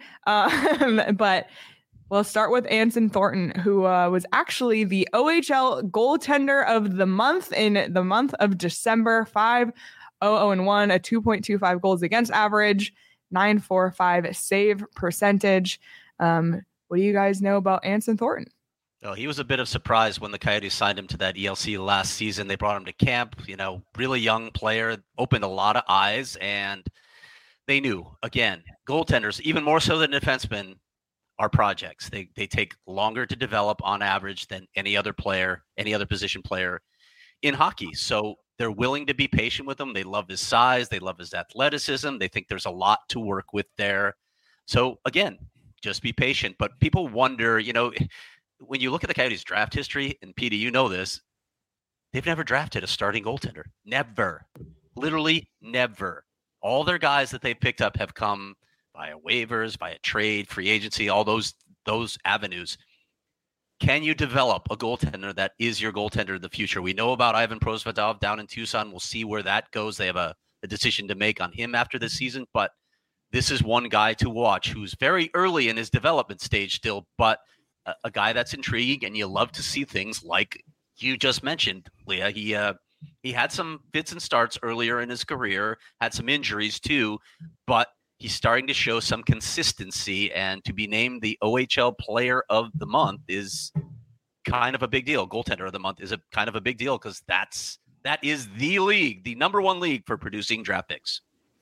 Uh, but we'll start with Anson Thornton, who uh, was actually the O H L goaltender of the month in the month of December. five oh oh one, a two point two five goals against average, nine forty-five save percentage. Um, what do you guys know about Anson Thornton? Oh, he was a bit of surprise when the Coyotes signed him to that E L C last season. They brought him to camp, you know, really young player, opened a lot of eyes, and they knew, again, goaltenders, even more so than defensemen, are projects. They they take longer to develop on average than any other player, any other position player in hockey. So they're willing to be patient with him. They love his size. They love his athleticism. They think there's a lot to work with there. So, again, just be patient. But people wonder, you know, when you look at the Coyotes draft history, and Petey, you know this, they've never drafted a starting goaltender. Never. Literally never. All their guys that they've picked up have come via waivers, via trade, free agency, all those those avenues. Can you develop a goaltender that is your goaltender in the future? We know about Ivan Prosvetov down in Tucson. We'll see where that goes. They have a, a decision to make on him after this season, but this is one guy to watch who's very early in his development stage still, but a, a guy that's intriguing, and you love to see things like you just mentioned, Leah. He uh, he had some fits and starts earlier in his career, had some injuries too, but he's starting to show some consistency, and to be named the O H L Player of the Month is kind of a big deal. Goaltender of the Month is a kind of a big deal because that's that is the league, the number one league for producing draft picks.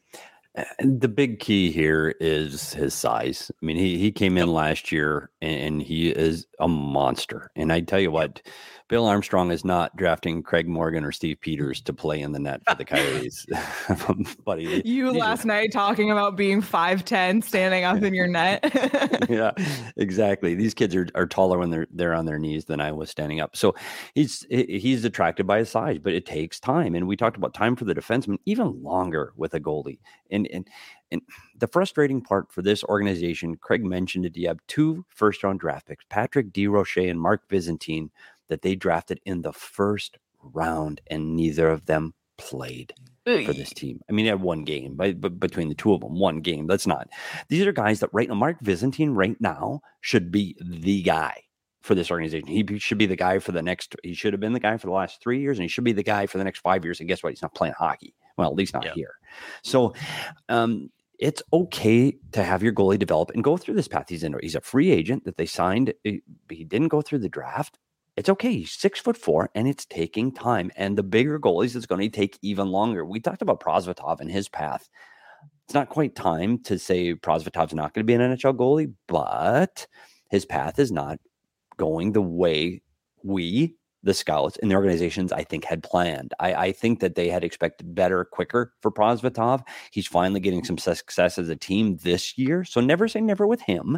And the big key here is his size. I mean, he he came in yep. last year, and he is a monster. And I tell you what, Bill Armstrong is not drafting Craig Morgan or Steve Peters to play in the net for the Coyotes. But he, you last just... night talking about being five ten, standing up in your net. Yeah, exactly. These kids are, are taller when they're they're on their knees than I was standing up. So he's he's attracted by his size, but it takes time. And we talked about time for the defenseman, even longer with a goalie. And and and the frustrating part for this organization, Craig mentioned it. You have two first round draft picks, Patrick DeRoche and Mark Byzantine, that they drafted in the first round, and neither of them played for this team. I mean, they had one game, but, but between the two of them, one game. That's not. These are guys that right now, Mark Byzantine right now should be the guy for this organization. He should be the guy for the next, he should have been the guy for the last three years, and he should be the guy for the next five years. And guess what? He's not playing hockey. Well, at least not yeah. here. So um, it's okay to have your goalie develop and go through this path. He's in, he's a free agent that they signed. He didn't go through the draft. It's okay. He's six foot four and it's taking time. And the bigger goalies, it's going to take even longer. We talked about Prosvetov and his path. It's not quite time to say Prosvetov's not going to be an N H L goalie, but his path is not going the way we, the scouts and the organizations, I think, had planned. I, I think that they had expected better, quicker for Prosvetov. He's finally getting some success as a team this year. So never say never with him.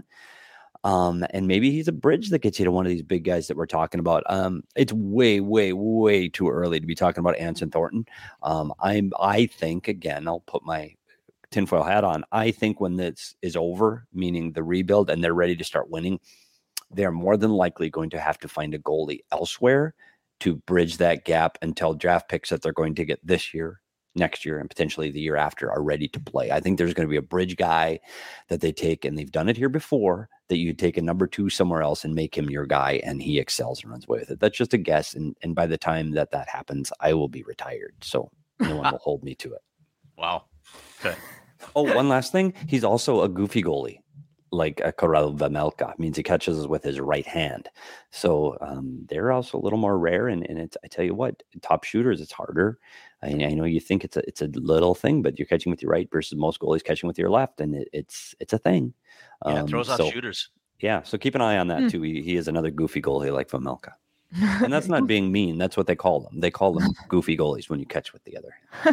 Um, and maybe he's a bridge that gets you to one of these big guys that we're talking about. Um, it's way, way, way too early to be talking about Anson Thornton. Um, I'm, I think, again, I'll put my tinfoil hat on. I think when this is over, meaning the rebuild, and they're ready to start winning, they're more than likely going to have to find a goalie elsewhere to bridge that gap until draft picks that they're going to get this year, next year, and potentially the year after are ready to play. I think there's going to be a bridge guy that they take, and they've done it here before, that you take a number two somewhere else and make him your guy, and he excels and runs away with it. That's just a guess. And, and by the time that that happens, I will be retired. So no one will hold me to it. Wow. Okay. Oh, one last thing. He's also a goofy goalie. Like a Karel Vejmelka, means he catches with his right hand. So um, they're also a little more rare. And, and it's, I tell you what, top shooters, it's harder. I, I know you think it's a it's a little thing, but you're catching with your right versus most goalies catching with your left, and it, it's it's a thing. Yeah, um, it throws off so, shooters. Yeah, so keep an eye on that Hmm. too. He, he is another goofy goalie like Vejmelka. And that's not being mean. That's what they call them. They call them goofy goalies when you catch with the other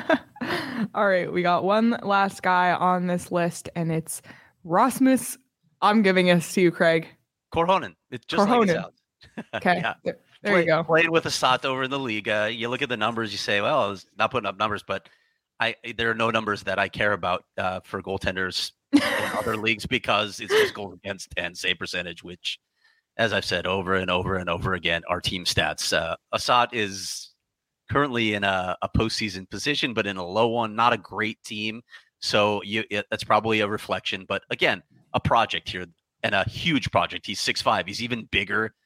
hand. All right, we got one last guy on this list, and it's Rasmus. I'm giving this to you, Craig. Korhonen. It's just Korhonen. like it sounds. Okay, Yeah. there, there Play, you go. Played with a Sato over in the league. Uh, you look at the numbers, you say, well, it's not putting up numbers, but I there are no numbers that I care about uh, for goaltenders in other leagues, because it's just goals against and save percentage, which, as I've said over and over and over again, are team stats. Uh, Assad is currently in a, a postseason position, but in a low one, not a great team. So you, it, that's probably a reflection. But again, a project here, and a huge project. He's six five. He's even bigger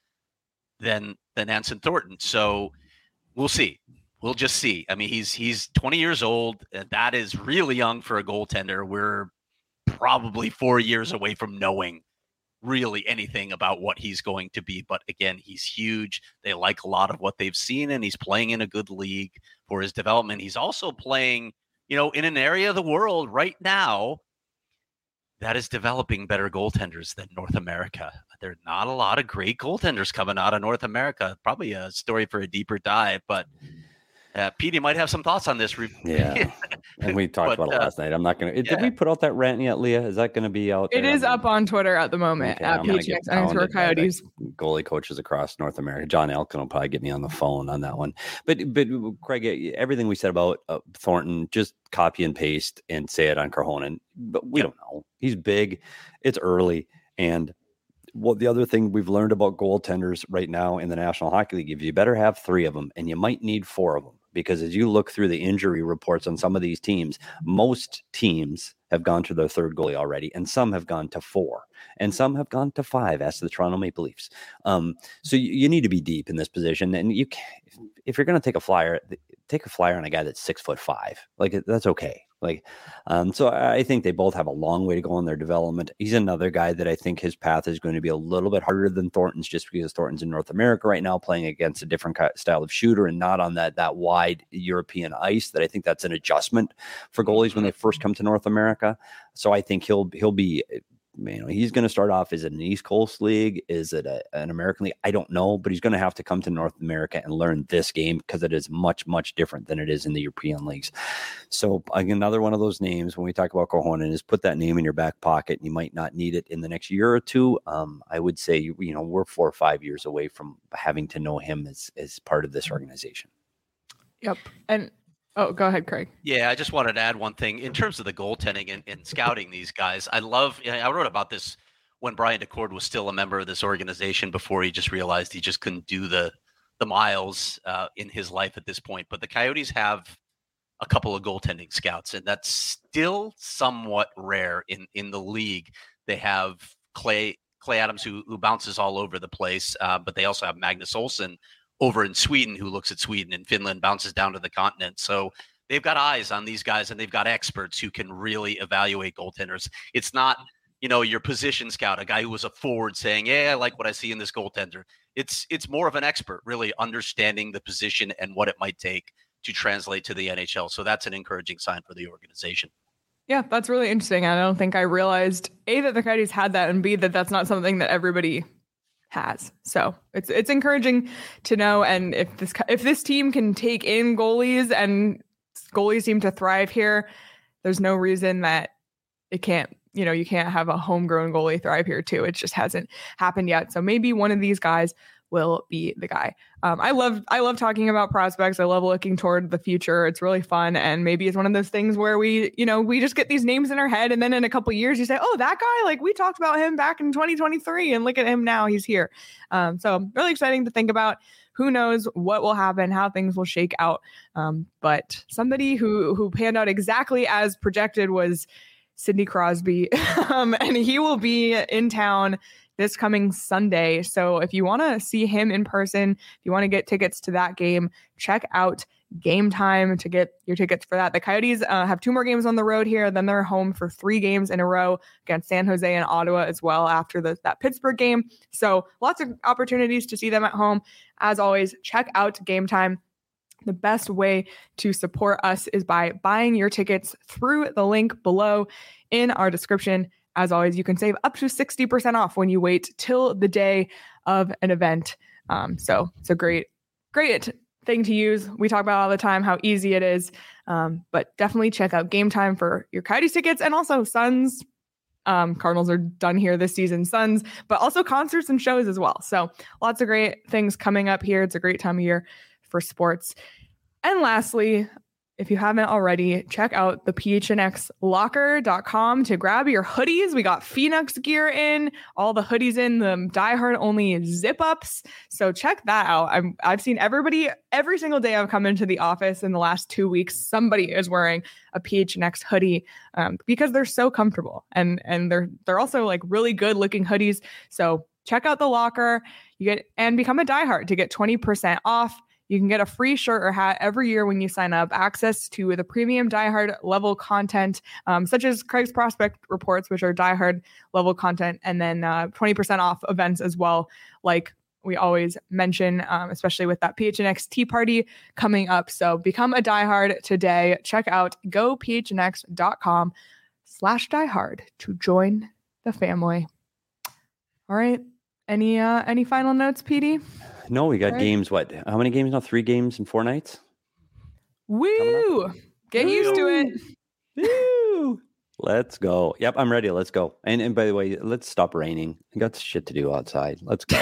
than than Anson Thornton. So we'll see. We'll just see. I mean, he's he's twenty years old. And that is really young for a goaltender. We're probably four years away from knowing really anything about what he's going to be. But again, he's huge. They like a lot of what they've seen, and he's playing in a good league for his development. He's also playing, you know, in an area of the world right now that is developing better goaltenders than North America. There are not a lot of great goaltenders coming out of North America. Probably a story for a deeper dive, but uh, Petey might have some thoughts on this. Yeah. And we talked But, about it uh, last night. I'm not going to, yeah. did we put out that rant yet, Leah? Is that going to be out there? It is I mean, up on Twitter at the moment okay, at I'm gonna P H get X underscore pounded by the Coyotes. goalie coaches across North America. John Elkin will probably get me on the phone on that one. But, but Craig, everything we said about uh, Thornton, just copy and paste and say it on Korhonen. But we don't know. He's big. It's early. And well, the other thing we've learned about goaltenders right now in the National Hockey League, if you better have three of them, and you might need four of them, because as you look through the injury reports on some of these teams, most teams have gone to their third goalie already, and some have gone to four, and some have gone to five, as the Toronto Maple Leafs. Um, so you, you need to be deep in this position, and you can, if, if you're going to take a flyer, take a flyer on a guy that's six foot five. Like, that's okay. Like, um, so I think they both have a long way to go in their development. He's another guy that I think his path is going to be a little bit harder than Thornton's, just because Thornton's in North America right now, playing against a different style of shooter and not on that that wide European ice. That I think that's an adjustment for goalies when they first come to North America. So I think he'll he'll be. You know, he's going to start off as an East Coast league. Is it a, an American league? I don't know, but he's going to have to come to North America and learn this game, because it is much, much different than it is in the European leagues. So another one of those names when we talk about Korhonen is put that name in your back pocket. You might not need it in the next year or two. Um, I would say, you know, we're four or five years away from having to know him as, as part of this organization. Yep. And oh, go ahead, Craig. Yeah, I just wanted to add one thing in terms of the goaltending and, and scouting these guys. I love, I wrote about this when Brian DeCord was still a member of this organization, before he just realized he just couldn't do the the miles uh, in his life at this point. But the Coyotes have a couple of goaltending scouts, and that's still somewhat rare in, in the league. They have Clay Clay Adams, who who bounces all over the place, uh, but they also have Magnus Olsson over in Sweden, who looks at Sweden and Finland, bounces down to the continent. So they've got eyes on these guys, and they've got experts who can really evaluate goaltenders. It's not, you know, your position scout, a guy who was a forward saying, yeah, I like what I see in this goaltender. It's it's more of an expert really understanding the position and what it might take to translate to the N H L. So that's an encouraging sign for the organization. Yeah, that's really interesting. I don't think I realized A, that the Coyotes had that, and B, that that's not something that everybody has. So it's it's encouraging to know. And if this if this team can take in goalies and goalies seem to thrive here, there's no reason that it can't, you know, you can't have a homegrown goalie thrive here too. It just hasn't happened yet. So maybe one of these guys will be the guy. Um, I love I love talking about prospects. I love looking toward the future. It's really fun. And maybe it's one of those things where we, you know, we just get these names in our head. And then in a couple of years, you say, oh, that guy, like we talked about him back in twenty twenty-three and look at him now. He's here. Um, so really exciting to think about. Who knows what will happen, how things will shake out. Um, but somebody who who panned out exactly as projected was Sidney Crosby. um, and he will be in town this coming Sunday. So if you want to see him in person, if you want to get tickets to that game, check out Game Time to get your tickets for that. The Coyotes uh, have two more games on the road here. Then they're home for three games in a row against San Jose and Ottawa as well after the, that Pittsburgh game. So lots of opportunities to see them at home. As always, check out Game Time. The best way to support us is by buying your tickets through the link below in our description. As always, you can save up to sixty percent off when you wait till the day of an event. Um, so it's a great, great thing to use. We talk about all the time how easy it is, um, but definitely check out Game Time for your Coyotes tickets, and also Suns. Um, Cardinals are done here this season, Suns, but also concerts and shows as well. So lots of great things coming up here. It's a great time of year for sports. And lastly, if you haven't already, check out the P H N X locker dot com to grab your hoodies. We got Phoenix gear in, all the hoodies in, the diehard only zip ups. So check that out. I'm, I've seen everybody, every single day I've come into the office in the last two weeks, somebody is wearing a P H N X hoodie um, because they're so comfortable. And, and they're, they're also like really good looking hoodies. So check out the locker, you get, and become a diehard to get twenty percent off. You can get a free shirt or hat every year when you sign up, access to the premium diehard level content, um, such as Craig's prospect reports, which are diehard level content, and then uh, twenty percent off events as well, like we always mention, um, especially with that P H N X Tea Party coming up. So become a diehard today. Check out go P H N X dot com slash diehard to join the family. All right. Any uh, any final notes, P D? No, we got right. games. What? How many games now? Three games in four nights? Woo! Get Woo. used to it. Woo! Let's go. Yep, I'm ready. Let's go. And and by the way, let's stop raining. I got shit to do outside. Let's go.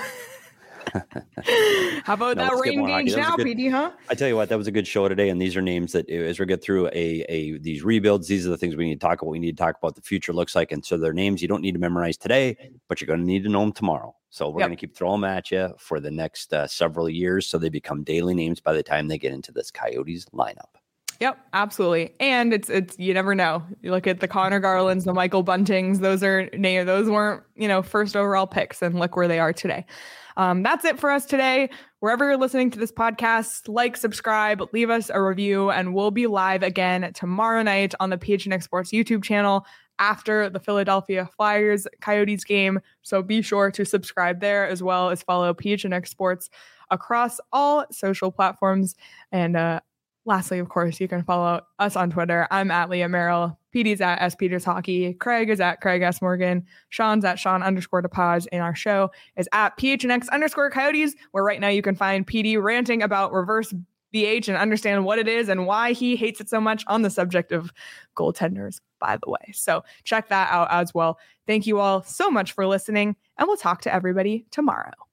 How about no, that rain gauge now, good, P D, huh? I tell you what, that was a good show today. And these are names that as we get through a, a these rebuilds, these are the things we need to talk about. We need to talk about the future looks like. And so they're names you don't need to memorize today, but you're going to need to know them tomorrow. So we're yep. going to keep throwing them at you for the next uh, several years. So they become daily names by the time they get into this Coyotes lineup. Yep, absolutely. And it's, it's, you never know. You look at the Connor Garlands, the Michael Buntings, those are, those weren't, you know, first overall picks, and look where they are today. Um, that's it for us today. Wherever you're listening to this podcast, like, subscribe, leave us a review, and we'll be live again tomorrow night on the P H N X Sports YouTube channel after the Philadelphia Flyers Coyotes game. So be sure to subscribe there, as well as follow P H N X Sports across all social platforms. And uh, lastly, of course, you can follow us on Twitter. I'm at Leah Merrill. P D's at S Peters Hockey. Craig is at Craig S. Morgan. Sean's at Sean underscore DePaz. And our show is at P H N X underscore Coyotes, where right now you can find P D ranting about reverse B H and understand what it is and why he hates it so much on the subject of goaltenders, by the way. So check that out as well. Thank you all so much for listening, and we'll talk to everybody tomorrow.